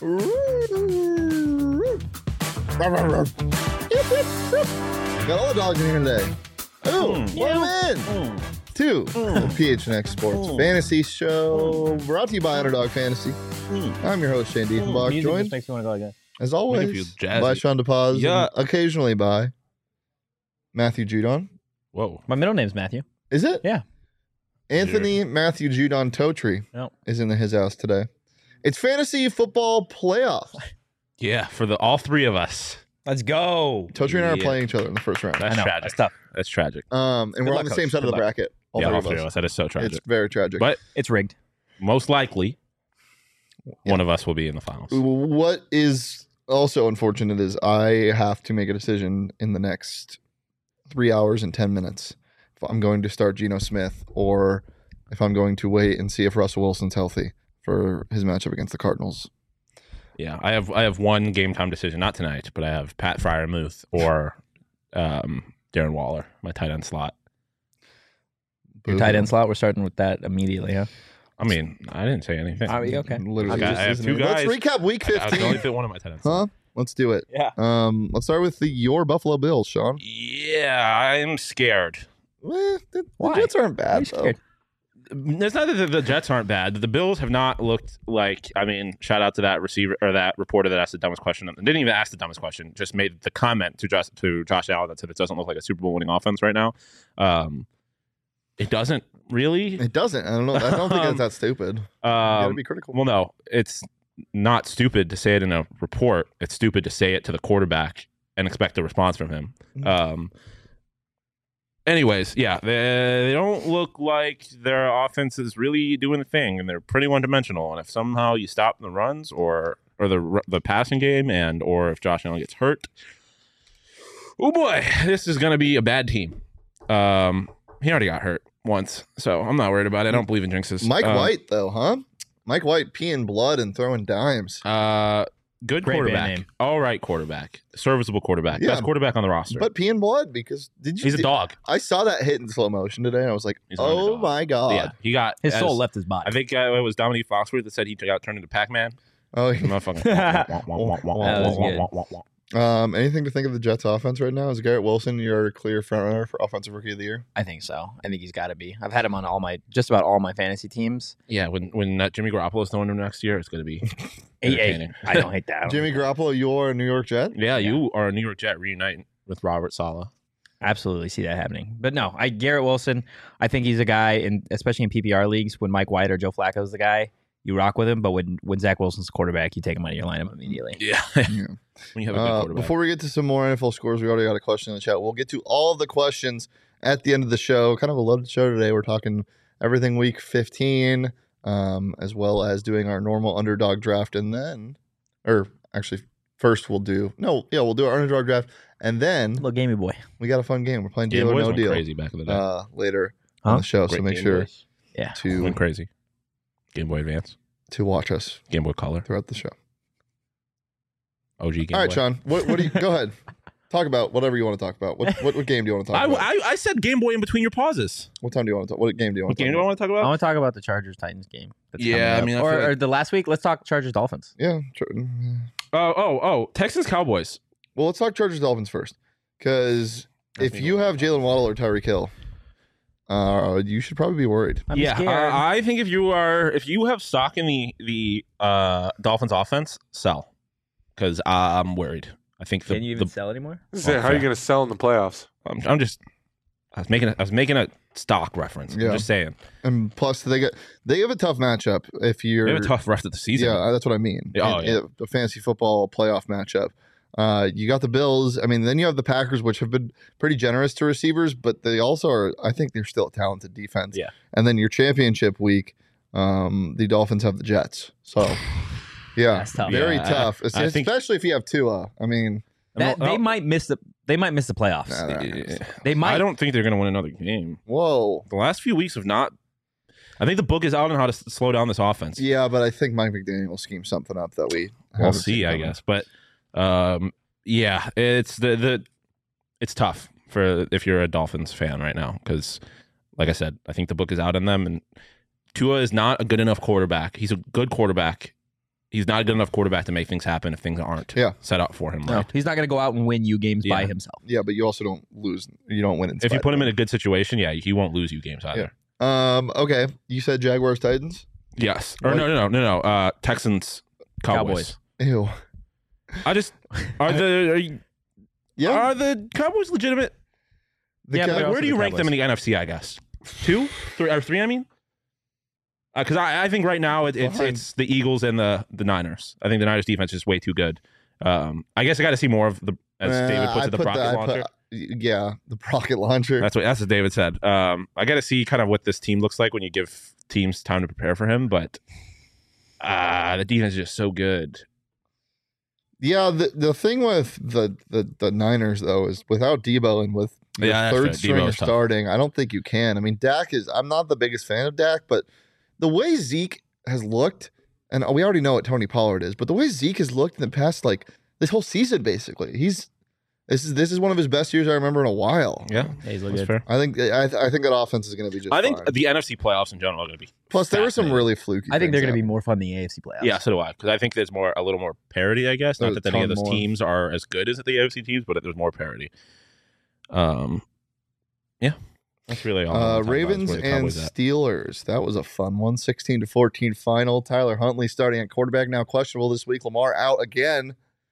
Got all the dogs in here today. Oh, welcome in to the PHNX Sports Fantasy Show, brought to you by Underdog Fantasy. I'm your host, Shane Diefenbach, joined, makes me want to go again. as always, by Sean DePaz, and occasionally by Matthew Judon. Whoa. My middle name's Matthew. Is it? Yeah. Anthony Matthew Judon Totri is in his house today. It's fantasy football playoff. Yeah, for all three of us. Let's go. Totri and I are playing each other in the first round. That's tragic. That's tough. That's tragic. And we're on the same side of the bracket. All three of us. That is so tragic. It's very tragic. But it's rigged. Most likely, one of us will be in the finals. What is also unfortunate is I have to make a decision in the next 3 hours and 10 minutes if I'm going to start Geno Smith or if I'm going to wait and see if Russell Wilson's healthy for his matchup against the Cardinals. Yeah, I have one game time decision, not tonight, but I have Pat Freiermuth or Darren Waller, my tight end slot. Your tight end slot, we're starting with that immediately, huh? I mean, I didn't say anything. Okay. Literally, I have two guys. Let's recap week 15. I can only fit one of my tight ends. Huh? Let's do it. Yeah. Let's start with your Buffalo Bills, Sean. Yeah, I'm scared. The Why? Jets aren't bad, though. It's not that the Jets aren't bad. The Bills have not looked like, I mean, shout out to that receiver or that reporter that asked the dumbest question. Didn't even ask the dumbest question, just made the comment to Josh Allen that said it doesn't look like a Super Bowl winning offense right now. It doesn't really. It doesn't. I don't know. I don't think it's that stupid. You gotta be critical. Well, no, it's not stupid to say it in a report. It's stupid to say it to the quarterback and expect a response from him. Anyways, yeah, they don't look like their offense is really doing the thing, and they're pretty one-dimensional. And if somehow you stop the runs or the passing game, or if Josh Allen gets hurt, oh boy, this is going to be a bad team. He already got hurt once, so I'm not worried about it. I don't believe in jinxes. Mike White, though, huh? Mike White peeing blood and throwing dimes. Good Great quarterback. All right quarterback. Serviceable quarterback. Yeah. Best quarterback on the roster. But peeing blood because He's a dog. I saw that hit in slow motion today. And I was like, He's an oh underdog. my God. Yeah, he got His soul left his body. I think it was Dominique Foxworth that said he got turned into Pac-Man. Oh, The motherfucking anything to think of the Jets offense right now? Is Garrett Wilson your clear front runner for offensive rookie of the year? I think so. I think he's got to be. I've had him on just about all my fantasy teams. Yeah, when Jimmy Garoppolo's throwing him next year, it's going to be Hey, entertaining. I don't hate that. Jimmy Garoppolo, you're a New York Jet? Yeah, you are a New York Jet reuniting with Robert Saleh. Absolutely see that happening. But no, Garrett Wilson, I think he's a guy, especially in PPR leagues, when Mike White or Joe Flacco is the guy, you rock with him. But when Zach Wilson's the quarterback, you take him out of your lineup immediately. Yeah. When you have a good quarterback. Before we get to some more NFL scores, we already got a question in the chat. We'll get to all of the questions at the end of the show. Kind of a loaded show today. We're talking everything week 15, as well as doing our normal underdog draft. And then, or actually, first we'll do our underdog draft. And then, Little gamey boy. we got a fun game. We're playing Game Deal or Boys No went Deal crazy back in the day. later on the show. So Great make Game sure Boys. Yeah. Went to crazy. Game Boy Advance. watch us Game Boy Color. throughout the show. OG Game All right, Boy. Sean. What do you go ahead? Talk about whatever you want to talk about. What game do you want to talk about? I said Game Boy in between your pauses. What time do you want to talk? What game do you want What to game do talk I want to talk I about? want to talk about the Chargers-Titans game. That's Yeah, coming up. I mean, I feel or like- the last week, let's talk Chargers-Dolphins. Yeah. Texans Cowboys. Well, let's talk Chargers Dolphins first, because That's if me you going. have Jalen Waddle or Tyreek Hill, you should probably be worried. I'm scared. I think if you have stock in the Dolphins offense, sell, because I'm worried. I think Can you even sell anymore? How are you going to sell in the playoffs? I was making a stock reference. Yeah. I'm just saying And plus, they have a tough matchup if you're. they have a tough rest of the season. Yeah, that's what I mean. Oh, yeah. The fantasy football playoff matchup. You got the Bills. I mean, then you have the Packers, which have been pretty generous to receivers, but they also are. I think they're still a talented defense. Yeah. And then your championship week, the Dolphins have the Jets. So, yeah, That's tough. very Yeah, tough. I think- Especially if you have Tua. I mean, They might miss the playoffs. They might. I don't think they're going to win another game. whoa. The last few weeks have not. I think the book is out on how to slow down this offense. Yeah, but I think Mike McDaniel will scheme something up that we. We'll haven't see, seen I coming. guess. But yeah, it's it's tough for if you're a Dolphins fan right now because, like I said, I think the book is out on them, and Tua is not a good enough quarterback. He's a good quarterback, he's not a good enough quarterback to make things happen if things aren't set up for him. No, Right? he's not going to go out and win you games by himself. Yeah, but you also don't lose. You don't win. If you put him in a good situation, he won't lose you games either. Okay, you said Jaguars Titans. Yes. Or no. Texans Cowboys. Ew. I just are the Cowboys legitimate? Where do you rank them in the NFC? I guess 2, 3, or 3. I mean, because I think right now it's the Eagles and the Niners. I think the Niners defense is way too good. I guess I got to see more of the, as David puts it, the rocket launcher. The rocket launcher. That's what David said. I got to see kind of what this team looks like when you give teams time to prepare for him, but the defense is just so good. Yeah, the thing with the Niners though is without Debo and with the third stringer starting, I don't think you can. I mean, I'm not the biggest fan of Dak, but the way Zeke has looked, and we already know what Tony Pollard is, but the way Zeke has looked in the past, like this whole season, basically, this is one of his best years I remember in a while. Yeah, he's that's good. fair. I think that offense is going to be just. I think fine. the NFC playoffs in general are going to be. Plus, there were some really fluky. I think they're going to be happen. more fun than the AFC playoffs. Yeah, so do I. Because I think there's a little more parity. I guess not There's that a any of ton those more. teams are as good as the AFC teams, but there's more parity. Yeah, that's really all. I wanna talk about is Ravens where the and Cowboys at. Steelers. That was a fun one. 16-14 final. Tyler Huntley starting at quarterback, now questionable this week. Lamar out again.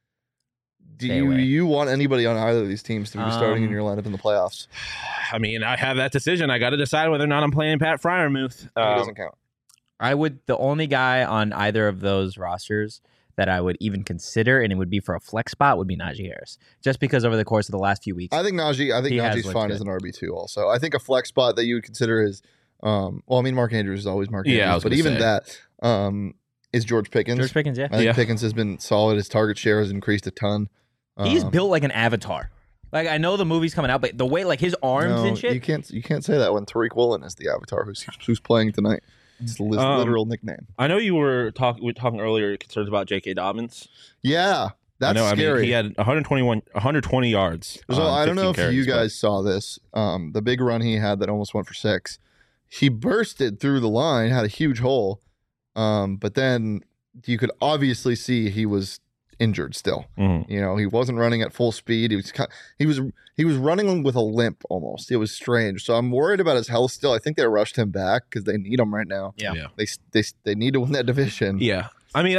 Do you want anybody on either of these teams to be starting in your lineup in the playoffs? I mean, I have that decision. I got to decide whether or not I'm playing Pat Freiermuth. He doesn't count. The only guy on either of those rosters that I would even consider, and it would be for a flex spot, would be Najee Harris. Just because over the course of the last few weeks, I think Najee's fine as an RB2 also. I think a flex spot that you would consider is, Mark Andrews is always Mark Andrews, but even that is George Pickens. George Pickens, yeah. I think Pickens has been solid. His target share has increased a ton. He's built like an avatar. Like, I know the movie's coming out, but the way, like, his arms and shit. You can't say that when Tariq Woolen is the avatar who's playing tonight. It's the literal nickname. I know you were talking earlier concerns about J.K. Dobbins. Yeah, that's scary. I mean, he had 120 yards. So I don't know if you guys but saw this. The big run he had that almost went for 6. He bursted through the line, had a huge hole, but then you could obviously see he was injured still. Mhm. You know, he wasn't running at full speed. He was running with a limp almost. It was strange. So I'm worried about his health still. I think they rushed him back because they need him right now. Yeah. They need to win that division. Yeah. I mean,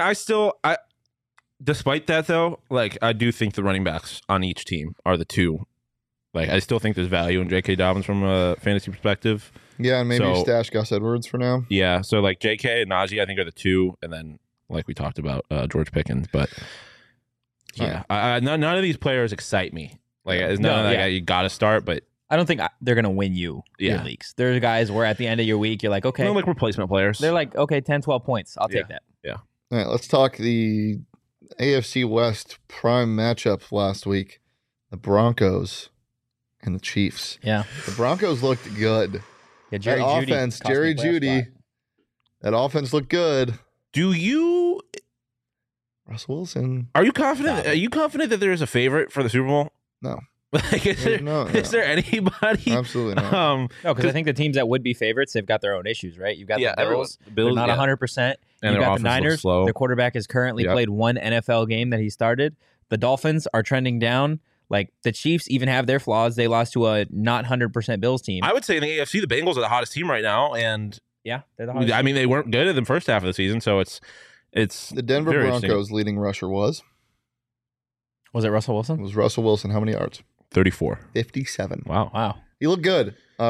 despite that though, like, I do think the running backs on each team are the two. Like, I still think there's value in J.K. Dobbins from a fantasy perspective. Yeah, and maybe you So- stash Gus Edwards for now. Yeah. So like J.K. and Najee, I think are the two, and then like we talked about George Pickens, but yeah, none of these players excite me. Like, it's none of that you got to start, but I don't think they're going to win you your leagues. There's guys where at the end of your week, you're like, okay. they're like replacement players. They're like, okay, 10, 12 points. I'll take that. All right, let's talk the AFC West prime matchup last week. The Broncos and the Chiefs. Yeah. The Broncos looked good. Yeah, Jerry that Jeudy offense, cost me Jerry a playoff Jeudy, spot. that offense looked good. Do you Russell Wilson. are you confident? Are you confident that there is a favorite for the Super Bowl? No. Like, is there anybody? Absolutely not. No, because I think the teams that would be favorites, they've got their own issues, right? You've got the Bills. They're not 100%. And You've their got the offense looks Niners. slow. Their quarterback has currently played one NFL game that he started. The Dolphins are trending down. Like, the Chiefs even have their flaws. They lost to a not 100% Bills team. I would say in the AFC, the Bengals are the hottest team right now, and Yeah, they're the hottest. I mean, they weren't good in the first half of the season, so it's The Denver very Broncos leading rusher was Was it Russell Wilson? Russell Wilson. How many yards? 34. 57. Wow. Wow. He looked good.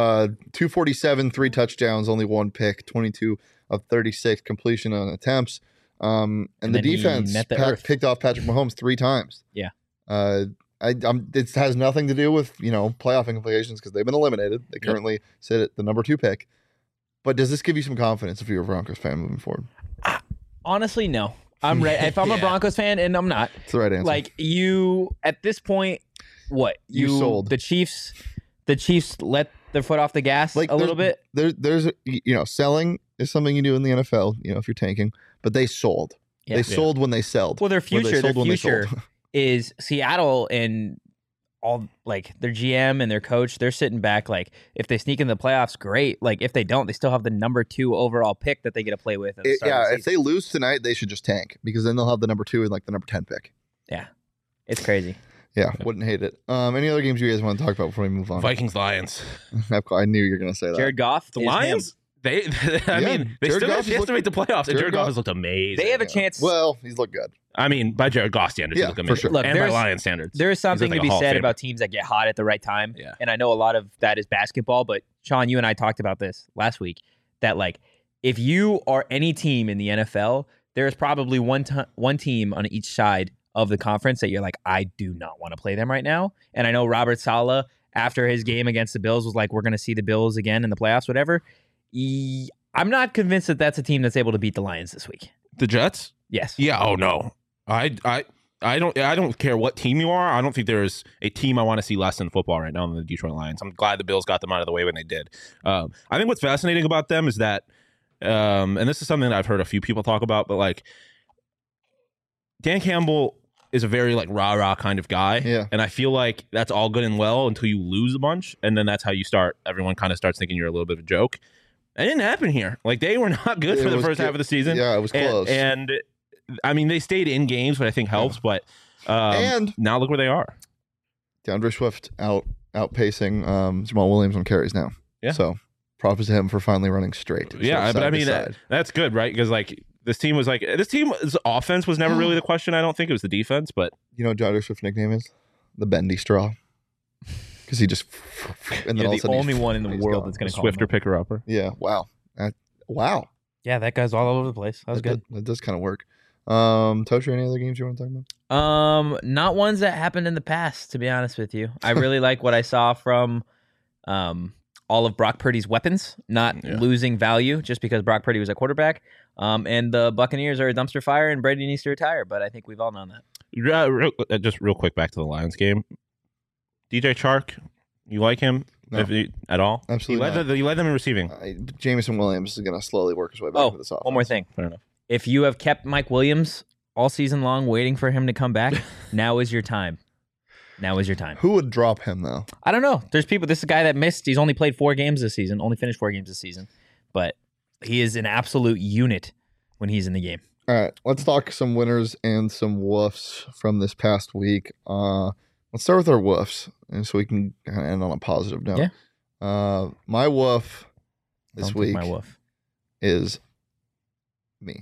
247, 3 touchdowns, only 1 pick, 22 of 36 completion on attempts. And the then he defense met the earth. picked off Patrick Mahomes 3 times. Yeah. It has nothing to do with playoff implications because they've been eliminated. They currently sit at the number 2 pick. But does this give you some confidence if you're a Broncos fan moving forward? Honestly, no. I'm ready. If I'm a Broncos fan, and I'm not, It's the right answer. like, you at this point, what You sold. the Chiefs let their foot off the gas Like, a little bit. There's selling is something you do in the NFL. If you're tanking, but they sold. Yeah. They sold when they sold. Well, their Or they future sold when they sold. is Seattle and all like their GM and their coach, they're sitting back like if they sneak in the playoffs, great. Like if they don't, they still have the number 2 overall pick that they get to play with. At the start of the If they lose tonight, they should just tank because then they'll have the number 2 and like the number 10 pick. Yeah, it's crazy. Yeah, wouldn't hate it. Any other games you guys want to talk about before we move on? Vikings Lions. I knew you were going to say that. Jared Goff, The is Lions. him. They Jared still have Goff a chance to make the playoffs, and Jared Goff has looked amazing. They have a chance. Well, he's looked good. I mean, by Jared Goff standards, Yeah, he looked for amazing. sure. Look, And by there's- Lions standards. There is something like to a be Hall of said Famer. about teams that get hot at the right time. Yeah. And I know a lot of that is basketball, but Sean, you and I talked about this last week that like if you are any team in the NFL, there is probably one team on each side of the conference that you're like, I do not want to play them right now. And I know Robert Saleh, after his game against the Bills, was like, we're going to see the Bills again in the playoffs, whatever. I'm not convinced that that's a team that's able to beat the Lions this week. The Jets? Yes. Yeah. Oh no. I don't care what team you are. I don't think there's a team I want to see less in football right now than the Detroit Lions. I'm glad the Bills got them out of the way when they did. I think what's fascinating about them is that, and this is something that I've heard a few people talk about, but like Dan Campbell is a very like rah-rah kind of guy. Yeah. And I feel like that's all good and well until you lose a bunch. And then that's how everyone kind of starts thinking you're a little bit of a joke. It didn't happen here. Like they were not good for the first half of the season. Yeah, it was close. And I mean, they stayed in games, which I think helps. But And- now look where they are. DeAndre Swift outpacing Jamal Williams on carries now. Yeah. So props to him for finally running straight. Yeah, So but I side to mean side. that's good, right? Because like this team's offense was never really the question. I don't think it was the defense, but You know what DeAndre Swift's nickname is? The bendy straw. Because he just and then You're all of a the sudden only one in the he's world gone. that's going to call Swifter him. picker upper. Yeah. Wow. Wow. Yeah, that guy's all over the place. That was good. That does kind of work. Tosher, any other games you want to talk about? Not ones that happened in the past, to be honest with you. I really like what I saw from all of Brock Purdy's weapons, not losing value just because Brock Purdy was a quarterback. And the Buccaneers are a dumpster fire, and Brady needs to retire. But I think we've all known that. Just real quick back to the Lions game. DJ Chark, you like him No. at all? Absolutely You led them in receiving. Jameson Williams is going to slowly work his way back Oh, to this offense. one more thing. Fair enough. If you have kept Mike Williams all season long waiting for him to come back, now is your time. Now is your time. Who would drop him, though? I don't know. There's people. This is a guy that missed. He's only played 4 games this season. Only finished 4 games this season. But he is an absolute unit when he's in the game. All right, let's talk some winners and some woofs from this past week. Let's start with our woofs, and so we can kind of end on a positive note. Yeah. My woof this Don't take week my woof. is me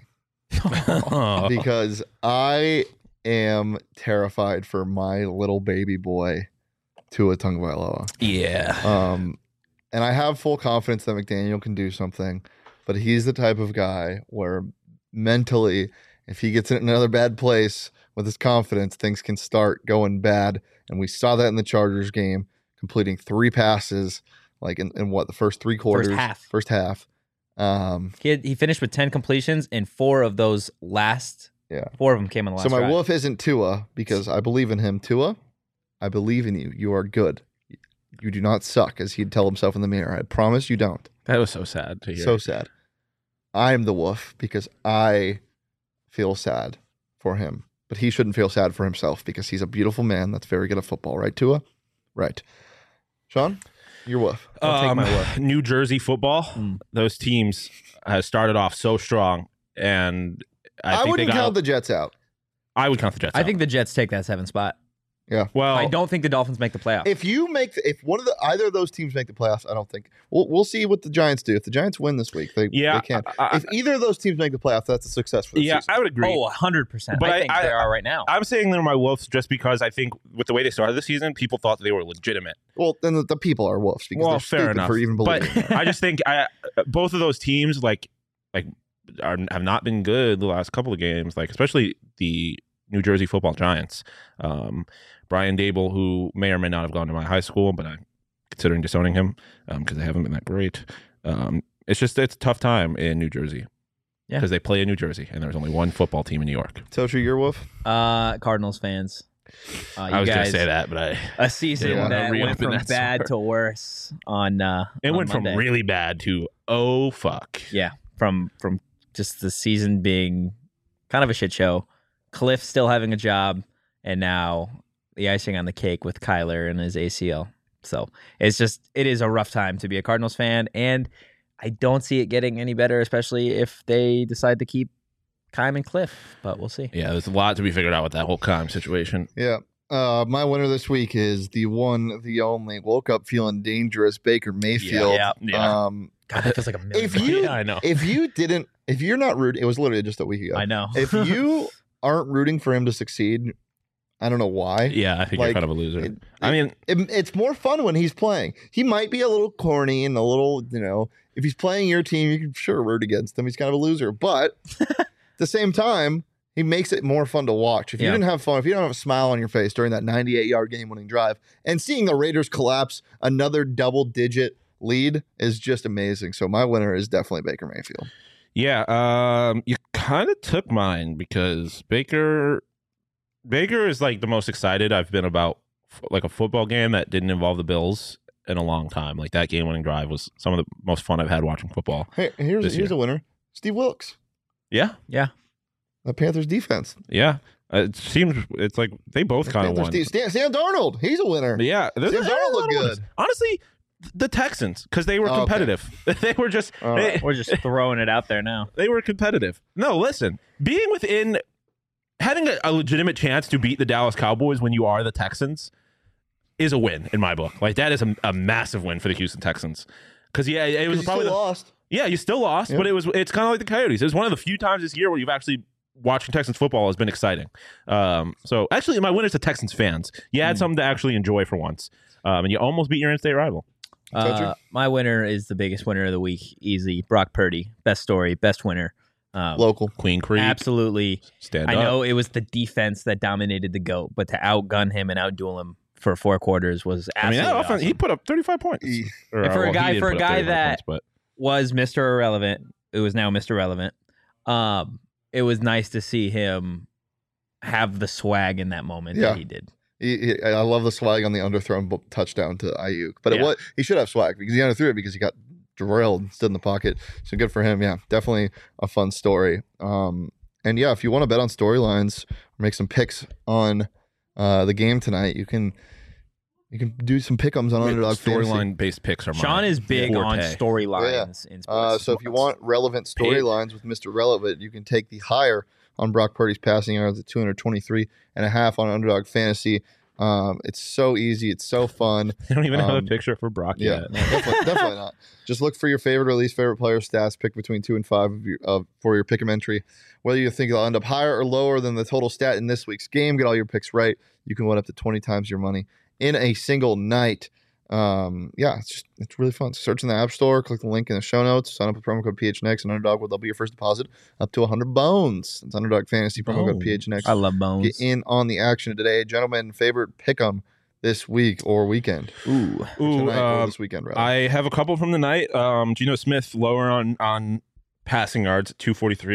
because I am terrified for my little baby boy, Tua Tagovailoa. Yeah. And I have full confidence that McDaniel can do something, but he's the type of guy where mentally, if he gets in another bad place with his confidence, things can start going bad. And we saw that in the Chargers game, completing 3 passes, like in what, the first 3 quarters? First half. He finished with 10 completions, and 4 of those last. Yeah. 4 of them came in the last. So my drive. wolf isn't Tua because I believe in him. Tua, I believe in you. You are good. You do not suck, as he'd tell himself in the mirror. I promise you don't. That was so sad to hear. So sad. I am the wolf because I feel sad for him. But he shouldn't feel sad for himself because he's a beautiful man that's very good at football. Right, Tua? Right. Sean, your wolf. I'll take my wolf. New Jersey football. Those teams have started off so strong, and I think wouldn't count the Jets out. I would count the Jets. I think the Jets take that 7th spot. Yeah. Well, I don't think the Dolphins make the playoffs. If either of those teams make the playoffs, I don't think we'll see what the Giants do. If the Giants win this week, they can. If either of those teams make the playoffs, that's a success for the season. I would agree. Oh, 100%. But I think they are right now. I'm saying they're my wolves just because I think with the way they started the season, people thought they were legitimate. Well, then the people are wolves because they're fair stupid enough. for even believing But that. I just think both of those teams have not been good the last couple of games. Like especially the New Jersey Football Giants. Brian Dable, who may or may not have gone to my high school, but I'm considering disowning him because they haven't been that great. It's a tough time in New Jersey. Yeah. Because they play in New Jersey, and there's only one football team in New York. Tosher, your wolf? Cardinals fans. I was going to say that, but a season Yeah. that went Reopen from that bad story. to worse on it on went Monday. from really bad to oh fuck. Yeah, from just the season being kind of a shit show. Cliff still having a job, and now the icing on the cake with Kyler and his ACL. So it is a rough time to be a Cardinals fan, and I don't see it getting any better, especially if they decide to keep Keim and Cliff, but we'll see. Yeah, there's a lot to be figured out with that whole Keim situation. Yeah. My winner this week is the one, the only, woke up feeling dangerous Baker Mayfield. Yeah. God, that feels like a million. If you, Yeah, I know. if you're not rooting, it was literally just a week ago. I know. If you aren't rooting for him to succeed, I don't know why. Yeah, I think you're kind of a loser. It's more fun when he's playing. He might be a little corny and a little, if he's playing your team, you can sure root against him. He's kind of a loser. But at the same time, he makes it more fun to watch. If you didn't have fun, if you don't have a smile on your face during that 98-yard game-winning drive, and seeing the Raiders collapse another double-digit lead is just amazing. So my winner is definitely Baker Mayfield. Yeah, you kind of took mine because Baker is like the most excited I've been about like a football game that didn't involve the Bills in a long time. Like that game-winning drive was some of the most fun I've had watching football. Hey, here's a winner. Steve Wilkes. Yeah. The Panthers defense. Yeah. It's like they both kind of won. Sam Darnold. He's a winner. Yeah. Sam Darnold looked good. Honestly, the Texans, because they were competitive. Okay. They were just we're just throwing it out there now. They were competitive. No, listen, being within having a legitimate chance to beat the Dallas Cowboys when you are the Texans is a win in my book. Like that is a massive win for the Houston Texans. Because it was probably lost. Yeah, you still lost, but it's kind of like the Coyotes. It was one of the few times this year where you've actually watching Texans football has been exciting. So actually, my winner's the Texans fans. You had something to actually enjoy for once, and you almost beat your in-state rival. My winner is the biggest winner of the week, easy. Brock Purdy, best story, best winner. Local. Queen Creek. Absolutely. Stand I up. know it was the defense that dominated the GOAT, but to outgun him and outduel him for 4 quarters was absolutely that offense, awesome. he put up 35 points. For a guy that was Mr. Irrelevant, it was now Mr. Relevant. It was nice to see him have the swag in that moment that he did. I love the swag on the underthrown touchdown to Ayuk, but he should have swag because he underthrew it because he got drilled, stood in the pocket. So good for him. Yeah, definitely a fun story. And yeah, if you want to bet on storylines or make some picks on the game tonight, you can do some pick'ems on Underdog Fantasy. Storyline based picks are mine. Sean is big on storylines in sports. So if you want relevant storylines with Mr. Relevant, you can take the higher on Brock Purdy's passing yards at 223.5 on Underdog Fantasy. It's so easy. It's so fun. You don't even have a picture for Brock yet. No, definitely not. Just look for your favorite or least favorite player stats. Pick between 2 and 5 for your pick'em entry. Whether you think they'll end up higher or lower than the total stat in this week's game, get all your picks right. You can win up to 20 times your money in a single night. It's really fun. Search in the App Store, click the link in the show notes, sign up with promo code PHNX, and Underdog will double your first deposit up to 100 bones. It's Underdog Fantasy, promo code PHNX. I love bones. Get in on the action today. Gentlemen, favorite pick'em this week or weekend? Ooh, tonight or this weekend, rather. I have a couple from the night. Geno Smith lower on passing yards at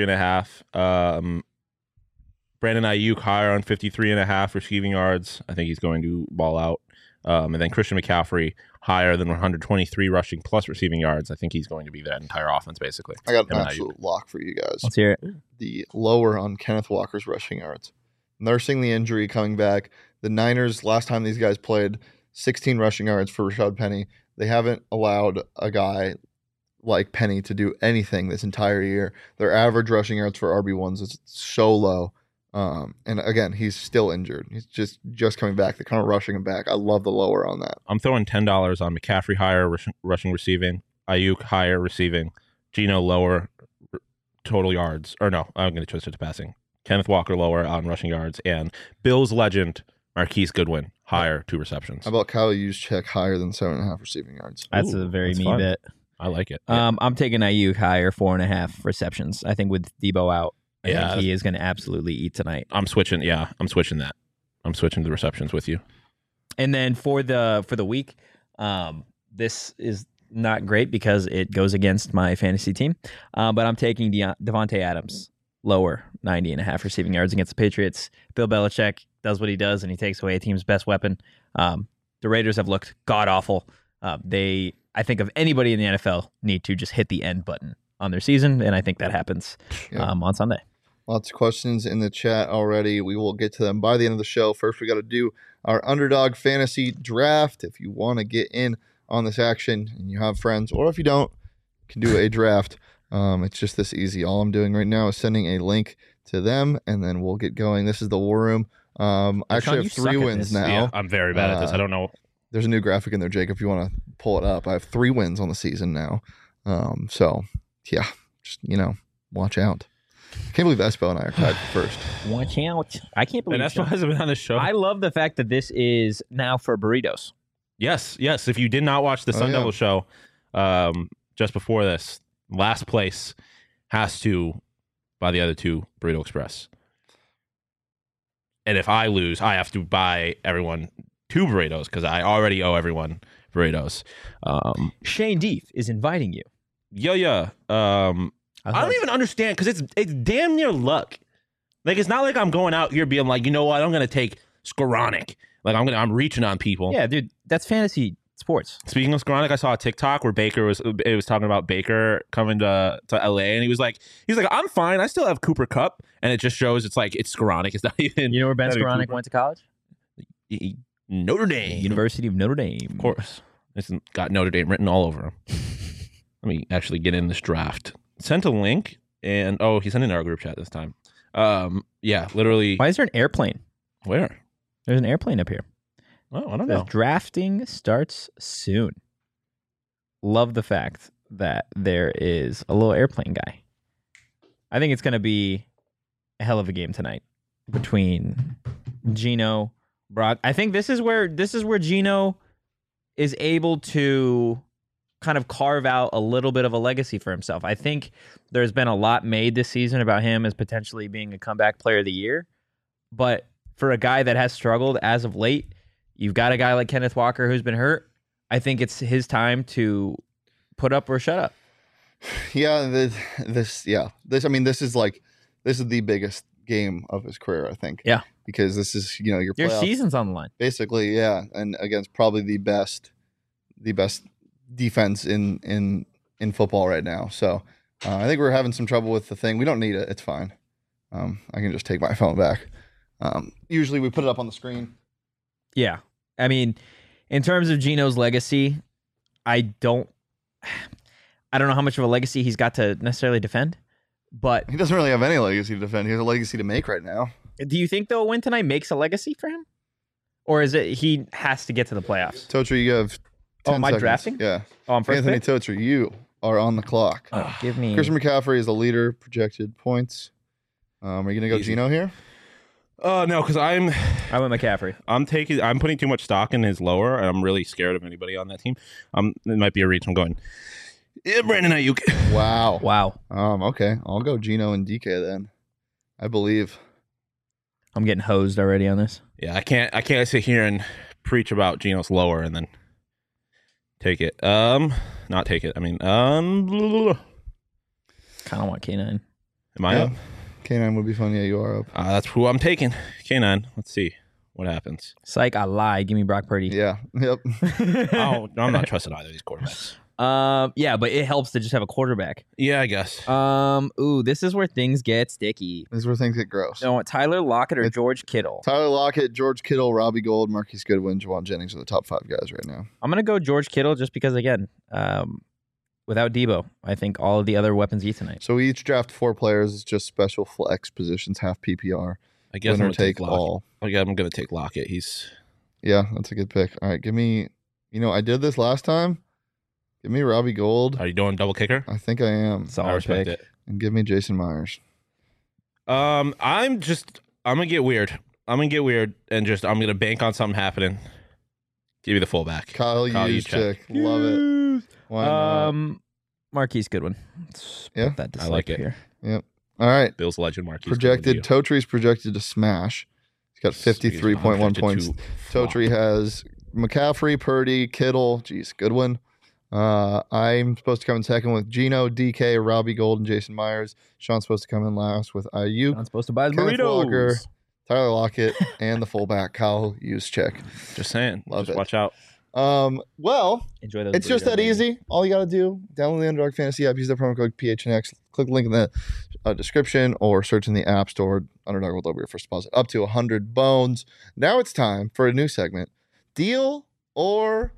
243.5. Brandon Ayuk higher on 53.5 receiving yards. I think he's going to ball out. And then Christian McCaffrey higher than 123 rushing plus receiving yards. I think he's going to be that entire offense, basically. I got an absolute lock for you guys. Let's hear it. The lower on Kenneth Walker's rushing yards. Nursing the injury, coming back. The Niners, last time these guys played, 16 rushing yards for Rashad Penny. They haven't allowed a guy like Penny to do anything this entire year. Their average rushing yards for RB1s is so low. And again, he's still injured. He's just coming back. They're kind of rushing him back. I love the lower on that. I'm throwing $10 on McCaffrey higher rushing receiving, Ayuk higher receiving, Geno lower total yards. Or no, I'm going to twist it to passing. Kenneth Walker lower on rushing yards, and Bills legend Marquise Goodwin higher 2 receptions. How about Kyle Juszczyk higher than 7.5 receiving yards? That's a very me bet. I like it. I'm taking Ayuk higher 4.5 receptions. I think with Debo out, I think he is going to absolutely eat tonight. I'm switching. Yeah, I'm switching that. I'm switching the receptions with you. And then for the week, this is not great because it goes against my fantasy team. But I'm taking Devontae Adams lower 90.5 receiving yards against the Patriots. Bill Belichick does what he does, and he takes away a team's best weapon. The Raiders have looked god awful. They, I think, of anybody in the NFL, need to just hit the end button on their season, and I think that happens on Sunday. Lots of questions in the chat already. We will get to them by the end of the show. First, we got to do our Underdog Fantasy Draft. If you want to get in on this action and you have friends, or if you don't, you can do a draft. It's just this easy. All I'm doing right now is sending a link to them, and then we'll get going. This is the War Room. I actually have 3 wins now. Yeah, I'm very bad at this. I don't know. There's a new graphic in there, Jake, if you want to pull it up. I have 3 wins on the season now. So, yeah, just, watch out. I can't believe Espo and I are tied for first. Watch out. I can't believe And Espo hasn't been on the show. I love the fact that this is now for burritos. Yes. If you did not watch the Sun Devil show just before this, last place has to buy the other 2 Burrito Express. And if I lose, I have to buy everyone 2 burritos because I already owe everyone burritos. Shane Deef is inviting you. Yeah. I don't even understand because it's damn near luck. Like, it's not like I'm going out here being like, you know what, I'm going to take Skoranek. Like, I'm reaching on people. Yeah, dude, that's fantasy sports. Speaking of Skoranek, I saw a TikTok where it was talking about Baker coming to LA, and he's like, I'm fine. I still have Cooper Kupp, and it just shows it's Skoranek. It's not even. You know where Ben Skoranek went to college? Notre Dame, University of Notre Dame. Of course, it's got Notre Dame written all over him. Let me actually get in this draft. Sent a link, and he sent it in our group chat this time. Yeah, literally. Why is there an airplane? Where? There's an airplane up here. Oh, I don't know. Drafting starts soon. Love the fact that there is a little airplane guy. I think it's going to be a hell of a game tonight between Gino, Brock. I think this is where Gino is able to kind of carve out a little bit of a legacy for himself. I think there's been a lot made this season about him as potentially being a comeback player of the year. But for a guy that has struggled as of late, you've got a guy like Kenneth Walker who's been hurt. I think it's his time to put up or shut up. Yeah, this is the biggest game of his career, I think. Yeah. Because this is, your season's on the line. Basically, yeah, and against probably the best defense in football right now. So I think we're having some trouble with the thing. We don't need it. It's fine. I can just take my phone back. Usually we put it up on the screen. Yeah. I mean, in terms of Gino's legacy, I don't know how much of a legacy he's got to necessarily defend, but he doesn't really have any legacy to defend. He has a legacy to make right now. Do you think though a win tonight makes a legacy for him? Or is it he has to get to the playoffs? Totri, you have 10 am I seconds. drafting? Yeah. Oh, I'm first Anthony pick? Totri, you are on the clock. Oh, give me Christian McCaffrey is the leader, projected points. Are you going to go Easy. Gino here? No, because I went McCaffrey. I'm putting too much stock in his lower, and I'm really scared of anybody on that team. It might be a reach. I'm going, Brandon Ayuk. Wow. Okay. I'll go Gino and DK then. I believe. I'm getting hosed already on this. Yeah, I can't sit here and preach about Gino's lower and then take it. Not take it. I mean, Kind of want K9. Am I up? K9 would be fun. Yeah, you are up. That's who I'm taking. K9. Let's see what happens. Psych, I lied. Give me Brock Purdy. Yeah. Yep. Oh, I'm not trusting either of these quarterbacks. Yeah, but it helps to just have a quarterback. Yeah, I guess. This is where things get sticky. This is where things get gross. So Tyler Lockett or George Kittle? Tyler Lockett, George Kittle, Robbie Gould, Marquise Goodwin, Jawan Jennings are the top 5 guys right now. I'm gonna go George Kittle just because, again, without Debo, I think all of the other weapons eat tonight. So we each draft 4 players. It's just special flex positions, half PPR. I guess Winner I'm gonna take all. I'm gonna take Lockett. Yeah, that's a good pick. All right, give me. I did this last time. Give me Robbie Gould. Are you doing double kicker? I think I am. Solid I respect pick. it. And give me Jason Myers. I'm gonna get weird. I'm and I'm gonna bank on something happening. Give me the fullback. Kyle Juszczyk. Love it. Why not? Marquise Goodwin. Let's Yeah? put that to I like sleep it. here. All right. Bill's legend Marquise. Projected. Totри's projected to smash. He's got 53.1 points. Totri has McCaffrey, Purdy, Kittle. Jeez, Goodwin. I'm supposed to come in second with Gino, DK, Robbie Gould, and Jason Myers. Sean's supposed to come in last with Ayuk, Not supposed to buy his Kenneth burritos. Walker, Tyler Lockett, and the fullback Kyle Juszczyk. Just saying. Love Just it. watch out. Well, Enjoy those. it's just burritos, that baby. easy. All you got to do, download the Underdog Fantasy app, use the promo code PHNX, click the link in the description, or search in the App Store. Underdog will double your first deposit up to 100 bones. Now it's time for a new segment. Deal or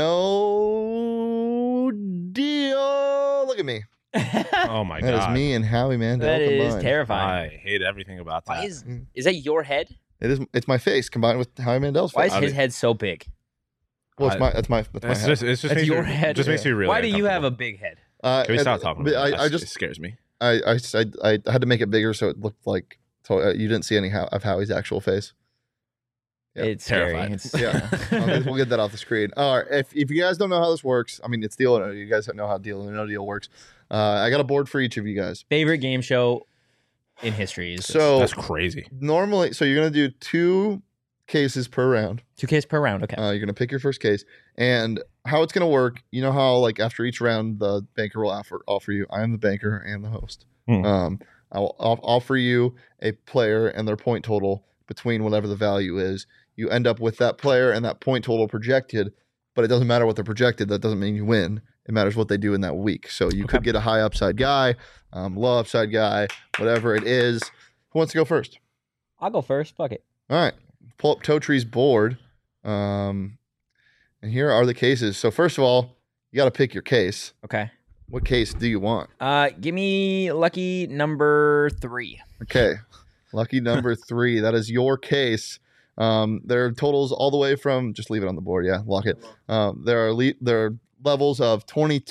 no deal? Look at me. Oh my That is god. me and Howie Mandel That is combined. terrifying. I hate everything about that. Why is that your head? It's my face combined with Howie Mandel's Why face. is his head so big? Well, that's my It's head. just That's makes your you, head. Just makes you really. Why do you have a uncomfortable. big head? Can we and- stop talking but about it? I It just scares me. I had to make it bigger so it looked like you didn't see any of Howie's actual face. Yeah. It's scary. Terrified. It's, Yeah, we'll get that off the screen. All right, if you guys don't know how this works, I mean, it's deal or no. You guys know how deal or no deal works. I got a board for each of you guys. Favorite game show in history is So That's crazy. normally, you're gonna do 2 cases per round. 2Ks per round. Okay. You're gonna pick your first case, and how it's gonna work. You know how like after each round, the banker will offer you. I am the banker and the host. Hmm. I'll offer you a player and their point total between whatever the value is. You end up with that player and that point total projected, but it doesn't matter what they're projected. That doesn't mean you win. It matters what they do in that week. So you could get a high upside guy, low upside guy, whatever it is. Who wants to go first? I'll go first. Fuck it. All right. Pull up Totree's board. And here are the cases. So first of all, you got to pick your case. Okay. What case do you want? Give me lucky number 3. Okay. Lucky number 3. That is your case. There are totals all the way from, just leave it on the board. Yeah, lock it. There are levels of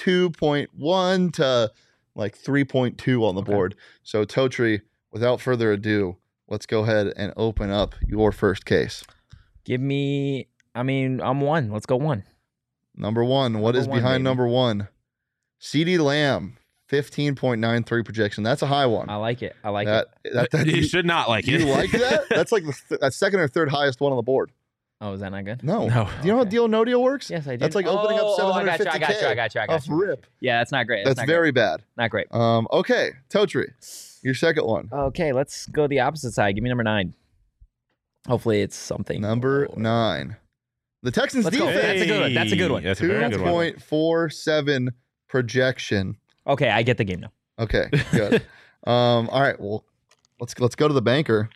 22.1 to like 3.2 on the board. So Totree, without further ado, let's go ahead and open up your first case. Give me. I'm 1. Let's go 1. Number 1. What is Number 1, behind baby. number 1? CeeDee Lamb, 15.93 projection. That's a high one. I like it. I like that, it. that, You you, should not like you it. like that? That's like the second or third highest one on the board. Oh, is that not good? No. No. Do you know how Okay. deal no deal works? Yes, I do. That's like opening up I got you. 750K off rip. Yeah, that's not great. That's not very great. bad. Not great. Okay, Totree, your second one. Okay, let's go the opposite side. Give me number 9. Hopefully, it's something. Number 9. The Texans Let's go. defense. That's a good one. That's a good one. That's a very good one. 2.47 projection. Okay, I get the game now. Okay, good. All right, well, let's go to the banker.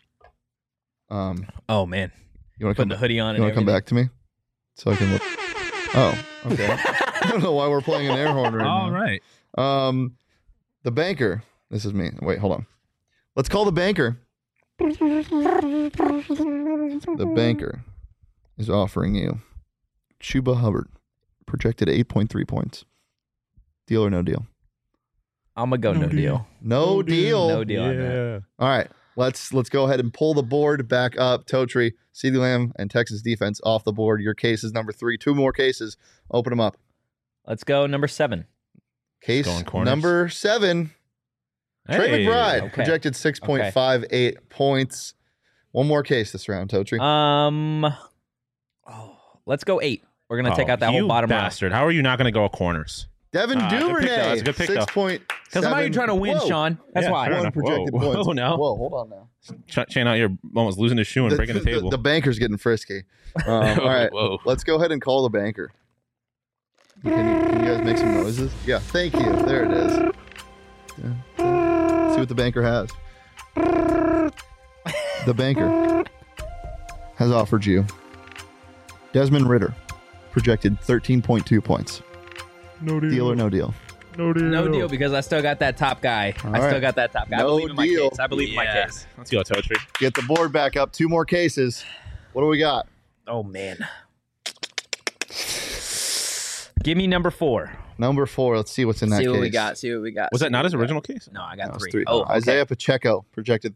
Oh man, You want to putting come? the hoodie on. You want and to come back to me so I can look? Oh, okay. everything. I don't know why we're playing an air horn right All now. right. The banker. This is me. Wait, hold on. Let's call the banker. The banker is offering you Chuba Hubbard, projected 8.3 points. Deal or no deal? I'm gonna go no deal. No deal. No deal on that. All right. Let's go ahead and pull the board back up. Totree, CeeDee Lamb, and Texas defense off the board. Your case is number 3. 2 more cases. Open them up. Let's go number 7. Case Going corners. number 7. Trey Hey. McBride, Okay. projected 6.58 points. One more case this round, Totree. Let's go 8. We're gonna take Oh, out that you whole bottom row. bastard. How are you not going to go corners? Devin good pick, though. Duvernay, That's a good pick, though. 6.7. Because I'm not trying to win, Whoa. Sean. That's Yeah, why. fair One enough. projected Whoa. points. Whoa, now. Whoa, hold on now. Chain out here, almost losing his shoe and breaking the table. The banker's getting frisky. All right, Whoa. let's go ahead and call the banker. Can you guys make some noises? Yeah, thank you. There it is. See what the banker has. The banker has offered you Desmond Ritter, projected 13.2 points. No Deal or no deal? No deal. No deal because I still got that top guy. All I still right. got that top guy. I No believe in my deal. case. I believe in my case. Let's go, Totree. Get the board back up. 2 more cases. What do we got? Oh man. Give me number 4. Number 4. Let's see what's in that See case. what we got. See what we got. Was see that not what his we got. original case? No, I That got was 3. 3. Oh, okay. Isaiah Pacheco, projected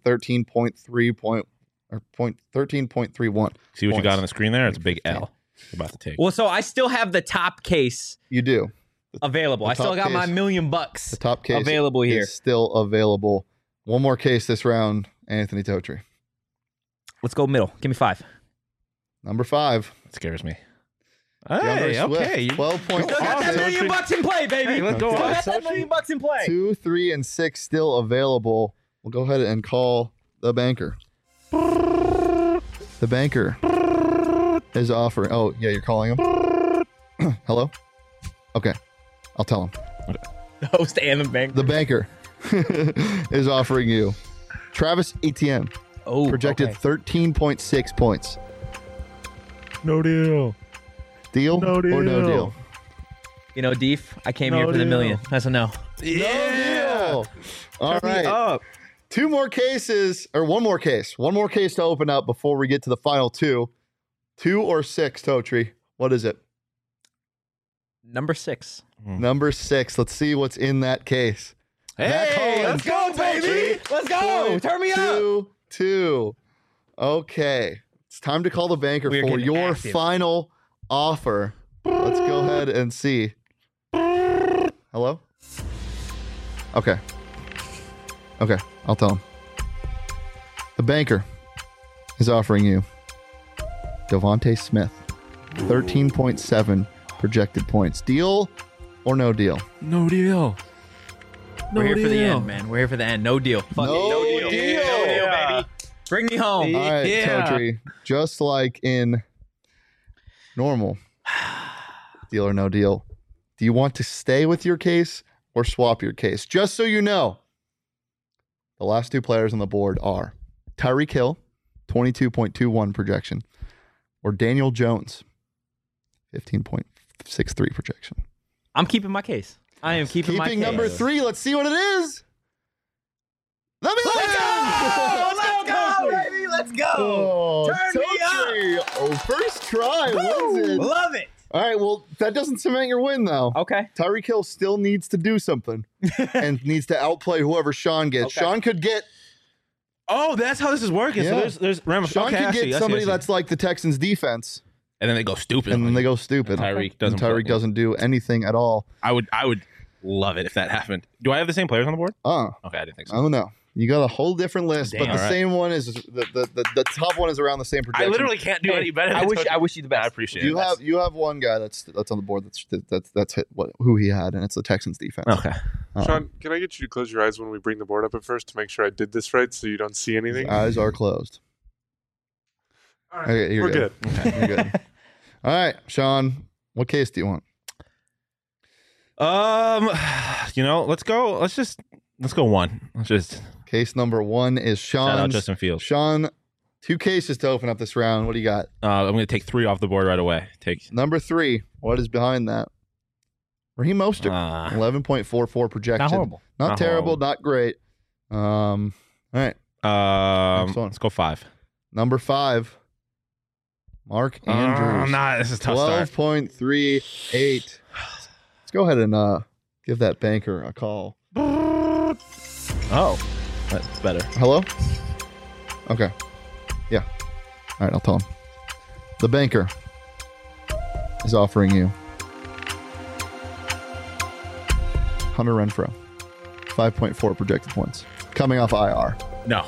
13.31. See what you got Points. on the screen there? It's a big L. You're about to take. Well, so I still have the top case You do. available. The I still top got my case. $1,000,000 The top case available here. is still available. One more case this round, Anthony Totree. Let's go middle. Give me 5. Number 5. It scares me. DeAndre Hey, Swift, okay. 12.6. Still got that $1,000,000 in play, baby. Hey, let's go Still on. got that $1,000,000 in play. 2, 3, and 6 still available. We'll go ahead and call the banker. The banker is offering. Oh, yeah, you're calling him? Hello? Okay. I'll tell him. The host and the bank. The banker is offering you Travis Etienne, projected 13.6 points. No deal. Deal No or no deal. deal? You know, Deef, I came No here for the deal. million. That's a no. Yeah. No deal. All Turn me right. up. Two more cases, or one more case. One more case to open up before we get to the final two. 2 or 6, Totri. What is it? Number 6. Number 6. Let's see what's in that case. Zach Hey, Collins. let's go, baby. Let's go. Turn me up. 2. Okay. It's time to call the banker We are for getting your active. final offer. Let's go ahead and see. Hello? Okay. Okay. I'll tell him. The banker is offering you Devontae Smith, 13.7 projected points. Deal or no deal? No deal. We're here for the end, man. We're here for the end. No deal. Fuck No it. deal. No deal, baby. Bring me home. All right, Yeah. Totri. Just like in normal, deal or no deal. Do you want to stay with your case or swap your case? Just so you know, the last two players on the board are Tyreek Hill, 22.21 projection, or Daniel Jones, 15.63 projection. I'm keeping my case. I am keeping my case. number 3. Let's see what it is. Let me Let's go, baby. Let's go. Oh, Turn me Totri. Oh, first try wins it. Love it. All right, well, that doesn't cement your win, though. Okay. Tyreek Hill still needs to do something and needs to outplay whoever Sean gets. Okay. Sean could get Oh, that's how this is working. Yeah. So there's Sean okay, I could see, I get see, somebody I see. that's like the Texans defense, and then they go stupid. and then they go stupid. Tyreek doesn't And Tyreek play. doesn't do anything at all. I would love it if that happened. Do I have the same players on the board? Okay, I didn't think so. I don't know. You got a whole different list, Damn. but the All right. same one is the top one is around the same I projection. literally can't do any better. I than wish Totri. you the best. I appreciate you it. have one guy that's on the board that's hit who he had, and it's the Texans defense. Okay. Sean, can I get you to close your eyes when we bring the board up at first to make sure I did this right so you don't see His anything? eyes are closed. All right, Okay, you're we're good. You're good. All right, Sean, what case do you want? Let's go. Let's go one. Let's just Case number 1 is shout out Sean's. Justin Fields. Sean, 2 cases to open up this round. What do you got? I'm going to take 3 off the board right away. Number 3. What is behind that? Raheem Mostert, 11.44 projection. Not horrible. Not Not terrible, horrible. not great. All right. Next one. Let's go 5. Number 5. Mark Andrews. This is a tough start. 12.38. Let's go ahead and give that banker a call. Oh, that's better. Hello? Okay. Yeah. All right, I'll tell him. The banker is offering you Hunter Renfrow, 5.4 projected points, coming off IR. No.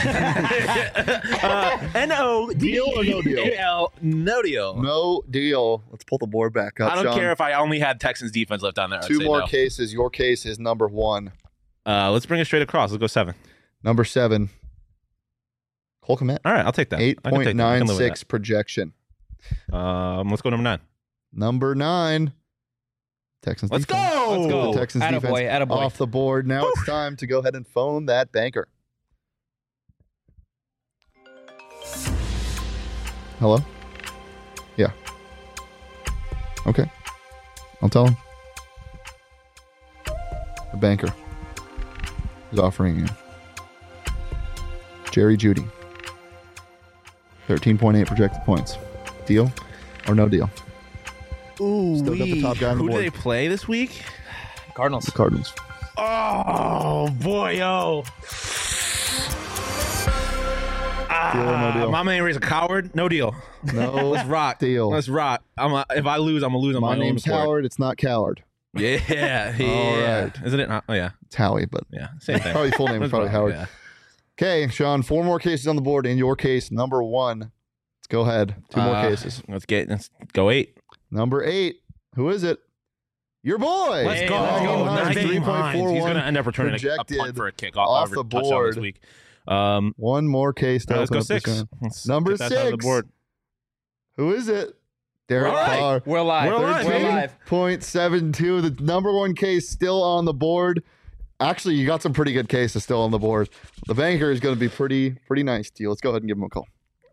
N-O. Deal or no deal? No deal. No deal. Let's pull the board back up. I don't Sean. care if I only had Texans defense left on there. I'd 2 say more no. cases. Your case is number 1. Let's bring it straight across. Let's go 7. Number 7. Cole Kmet, All right, I'll take that. I can take that. I can live with 8.96 projection. that. Let's go number 9. Number 9. Texans Let's defense. go. Let's go. The Texans Attaboy, defense attaboy. off the board. Now it's time to go ahead and phone that banker. Hello? Yeah. Okay. I'll tell him. The banker is offering you Jerry Jeudy, 13.8 projected points. Deal or no deal? Ooh, Still got the top guy on the who board. do they play this week? Cardinals. The Cardinals. Oh, boy, yo. Deal or no deal? My man is a coward. No deal. No Let's rock. deal. Let's rock. If I lose, I'm going to lose on my My own name's accord. Howard. It's not Coward. Yeah. Yeah. right. Isn't it? Oh, yeah. It's Howie, but Yeah. Same thing. probably full name is That's probably Howard. Yeah. Okay, Sean, 4 more cases on the board. In your case, number 1. Let's go ahead. 2 more cases. Let's go 8. Number 8. Who is it? Your boy. Let's Hey, go. let's go. Nice. Nice. 3.41 He's going to end up returning a projected punt for a kick off or the touchdown board. this week. 1 more case to Let's open go up this 6. round. Let's Number get that side of 6. the board. Who is it? Derek All right. Carr. We're live. We're live, We're baby. live. 13.72. The number one case still on the board. Actually, you got some pretty good cases still on the board. The banker is going to be pretty nice to you. Let's go ahead and give him a call.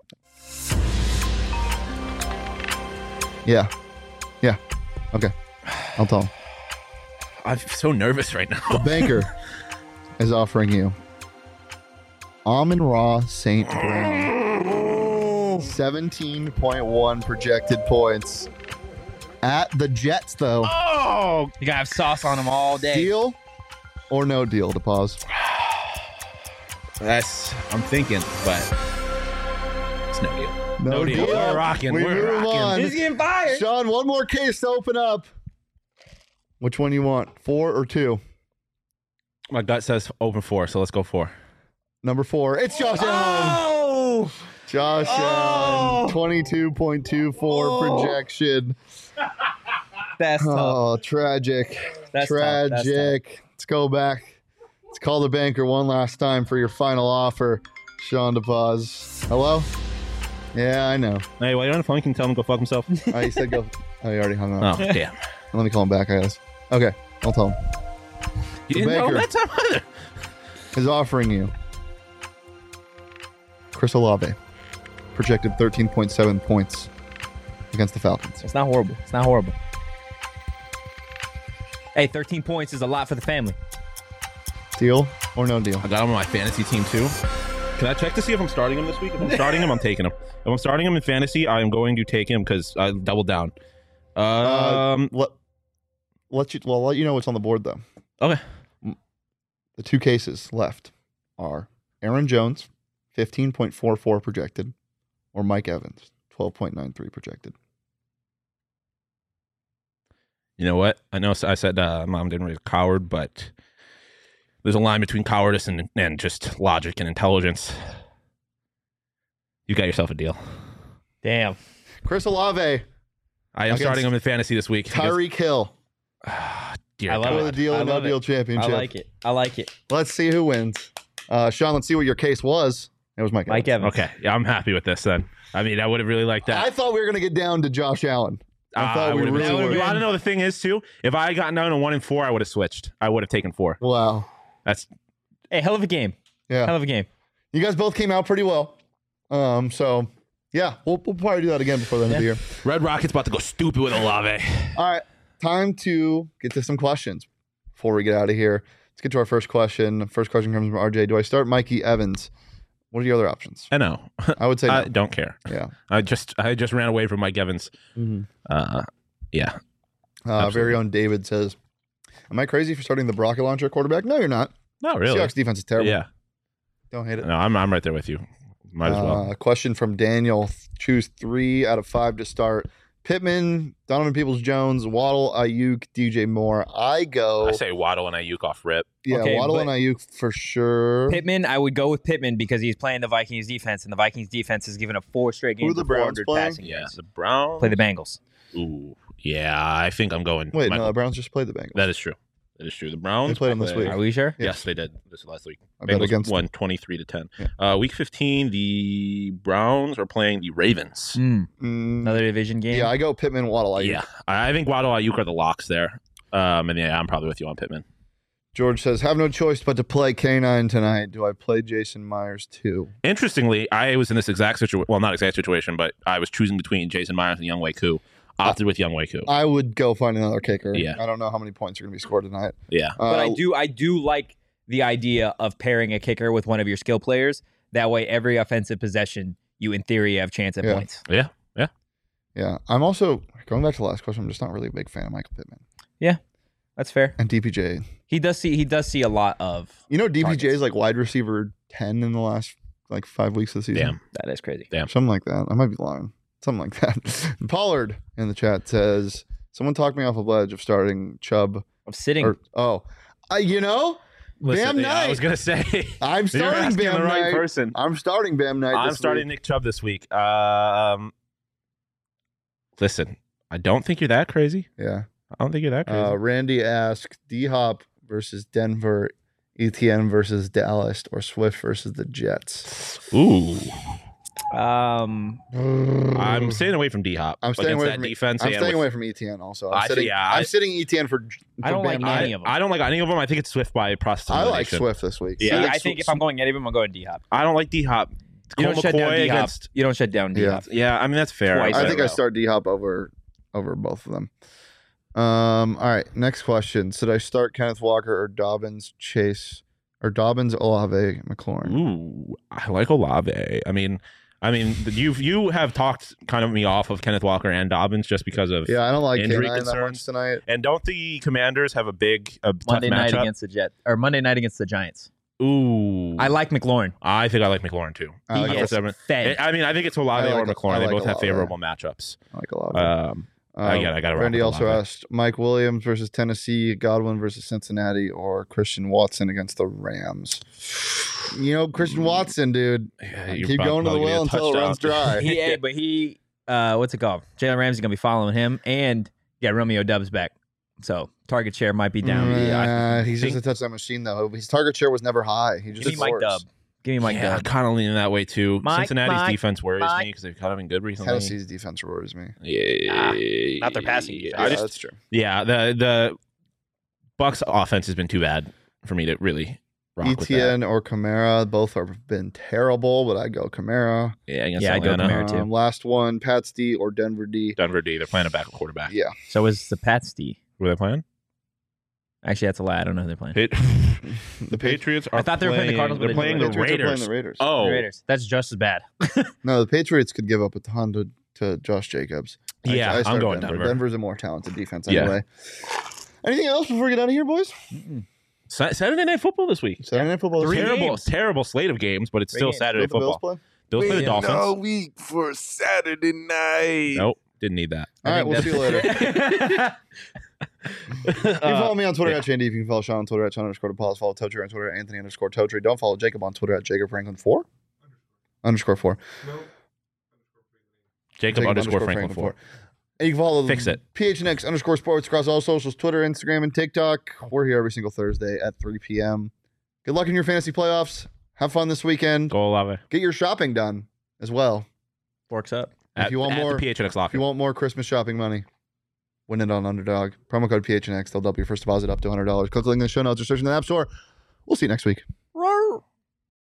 Yeah. Okay. I'll tell him. I'm so nervous right The now. banker is offering you Amon-Ra St. Brown. 17.1 projected points. At the Jets, though. Oh, You gotta have sauce on them all day. Deal or no deal to pause? I'm thinking, but it's no deal. No deal. We're rocking. We We're move rocking. on. He's getting fired. Sean, one more case to open up. Which one you want? 4 or 2? My gut says open 4, so let's go 4. Number 4. It's Josh Allen. Oh, Josh Allen. 22.24 projection. that's tough. Oh, tragic. That's tough. That's Tragic. Let's go back. Let's call the banker one last time for your final offer. Sean DePaz. Hello? Yeah, I know. Hey, while you're on the phone, can you tell him to go fuck himself? Oh, he said go. Oh, he already hung up. Oh, damn. Let me call him back, I guess. Okay, I'll tell him. You The didn't know banker. that time either. Is offering you Chris Olave, projected 13.7 points against the Falcons. It's not horrible. It's not horrible. Hey, 13 points is a lot for the family. Deal or no deal? I got him on my fantasy team too. Can I check to see if I'm starting him this week? If I'm starting him, I'm taking him. If I'm starting him in fantasy, I am going to take him because I doubled down. I'll let you know what's on the board though. Okay. The 2 cases left are Aaron Jones, 15.44 projected, or Mike Evans, 12.93 projected. You know what? I know I said mom didn't raise a coward, but there's a line between cowardice and just logic and intelligence. You got yourself a deal. Damn. Chris Olave, I am Against starting him in fantasy this week. Tyreek Hill Dear I love God. for the deal I or no love deal it. championship. I like it. Let's see who wins. Sean, let's see what your case was. It was Mike Mike Evans. Evans. Okay. Yeah, I'm happy with this then. I mean, I would have really liked that. I thought we were going to get down to Josh Allen. I thought we would've really been- were. You want to know the thing is too? If I had gotten down to 1 and 4, I would have switched. I would have taken 4. Wow. That's Hey, hell of a game. Yeah. Hell of a game. You guys both came out pretty well. So, yeah, we'll probably do that again before the end of the year. Red Rocket's about to go stupid with Olave. All right, time to get to some questions before we get out of here. Let's get to our first question. The first question comes from RJ. Do I start Mikey Evans? What are your other options? I know. I would say I no. don't care. Yeah. I just ran away from Mike Evans. Yeah. Very own David says, am I crazy for starting the rocket launcher quarterback? No, you're not. Not really. Seahawks defense is terrible. Yeah. Don't hate it. No, I'm right there with you. Might as well. Question from Daniel. Choose 3 out of 5 to start. Pittman, Donovan Peoples-Jones, Waddle, Ayuk, DJ Moore. I go. I say Waddle and Ayuk off rip. Yeah, Okay, Waddle but- and Ayuk for sure. Pittman, I would go with Pittman because he's playing the Vikings defense, and the Vikings defense has given up 4 straight Who are games the of Browns 400 playing? passing Yeah. yards. The Browns. Play the Bengals. Ooh. Yeah, I think I'm going. Wait, Michael. no, the Browns just played the Bengals. That is true. That is true. The Browns They played them this week. Are we sure? Yes, they did. This last week. I bet Bengals against won 23-10. Yeah. Week 15, the Browns are playing the Ravens. Mm, Another division game. yeah, I go Pittman, Waddle, Ayuk. Yeah, I think Waddle, Ayuk are the locks there. And yeah, I'm probably with you on Pittman. George says, have no choice but to play K9 tonight. Do I play Jason Myers too? Interestingly, I was in this exact situation. Well, not exact situation, but I was choosing between Jason Myers and Younghoe Koo. Opted with Younghoe Koo. I would go find another kicker. Yeah. I don't know how many points are going to be scored tonight. Yeah. But I do like the idea of pairing a kicker with one of your skill players. That way, every offensive possession, you in theory have chance at Yeah. points. Yeah. Yeah, I'm also, going back to the last question, I'm just not really a big fan of Michael Pittman. That's fair. And DPJ. He does see a lot of. You know, DPJ Targets. is like wide receiver 10 in the last 5 weeks of the season. Damn. That is crazy. Something like that. I might be lying. Something like that. Pollard in the chat says, someone talked me off a ledge of starting Chubb. Of sitting. You know, Bam yeah, Knight. I was going to say. I'm You're starting asking Bam the right Knight. person. I'm starting Bam Knight. I'm this starting week. Nick Chubb this week. Listen, I don't think you're that crazy. Yeah. I don't think you're that crazy. Randy asked, D-Hop versus Denver, ETN versus Dallas, or Swift versus the Jets. Ooh. I'm staying away from D Hop. I'm staying away that from defense. I'm and staying with- away from ETN also. I see, I'm sitting ETN for I don't like Bam any Knight. of them. I don't like any of them. I think it's Swift by process I like elimination. Swift this week. Yeah. I think if I'm going any of them, I'm going D Hop. I don't like D Hop. You Cole don't shut down McCoy D Hop. against. You don't shut down D Hop. Yeah, I mean that's fair. Twice I in a think I row. start D Hop over both of them. All right, next question. Should I start Kenneth Walker or Dobbins Chase or Dobbins Olave McLaurin? Ooh, I like Olave. I mean, you have talked kind of me off of Kenneth Walker and Dobbins just because of Yeah, I don't like Injury K9 that much concerns. tonight. And don't the Commanders have a tough Monday night matchup? against the Jets or Monday night against the Giants. Ooh, I like McLaurin. I think I like McLaurin too. I like He For gets seven. fed. I mean, I think it's Olave I like- or McLaurin. I They like both have Olave. favorable matchups. I like Olave. I got to Randy also Olave. asked Mike Williams versus Tennessee, Godwin versus Cincinnati, or Christian Watson against the Rams. You know, Christian Watson, dude. Yeah, you're Keep about- going to about the get a well until it runs touchdown. dry. But he, what's it called? Jalen Ramsey's gonna be following him, and Romeo Dubs back, so target share might be down. He's just a touchdown machine, though. His target share was never high. He just Give me Mike scores. Dub. Give me Mike Yeah, Dub. kind of leaning that way too. Mike, Cincinnati's Mike, defense worries Mike. me because they've kind of been good recently. Tennessee's defense worries me. Yeah, not their passing defense. Yeah, I just, that's true. yeah, the Bucks offense has been too bad for me to really rock with that. ETN or Kamara, both have been terrible, but I go Kamara. Yeah, against Yeah, I go Atlanta. Kamara. too. Last one, Pats D or Denver D. Denver D. They're playing a backup quarterback. Yeah. So is the Pats D. Were they playing? Actually, that's a lie. I don't know who they're playing. The Patriots are. I thought they were playing the Cardinals, but They're they playing didn't. the Patriots are Raiders. playing the Raiders. Oh, Raiders. That's just as bad. No, the Patriots could give up a ton to Josh Jacobs. Yeah, I'm start going Denver. Denver's a more talented defense Yeah. anyway. Anything else before we get out of here, boys? Saturday Night Football this week. Saturday Night Football. Three Terrible, games. terrible slate of games, but it's Three still games. Saturday Don't the Bills football. play? Bills play the Dolphins. all week for Saturday night. Nope, didn't need that. All right, we'll see you later. You can follow me on Twitter yeah. at Shandy. You can follow Sean on Twitter at Sean_DePaul. Follow Totri on Twitter at Anthony_Totri. Don't follow Jacob on Twitter at JacobFranklin4. _4. Jacob _ Franklin 4. And you can follow Fix it. PHNX_sports across all socials, Twitter, Instagram, and TikTok. We're here every single Thursday at 3 p.m. Good luck in your fantasy playoffs. Have fun this weekend. Go Olave. Get your shopping done as well. Forks up. If you want more- the PHNX If locker. you want more Christmas shopping money, win it on Underdog. Promo code PHNX. They'll double your first deposit up to $100. Click the link in the show notes or search in the App Store. We'll see you next week.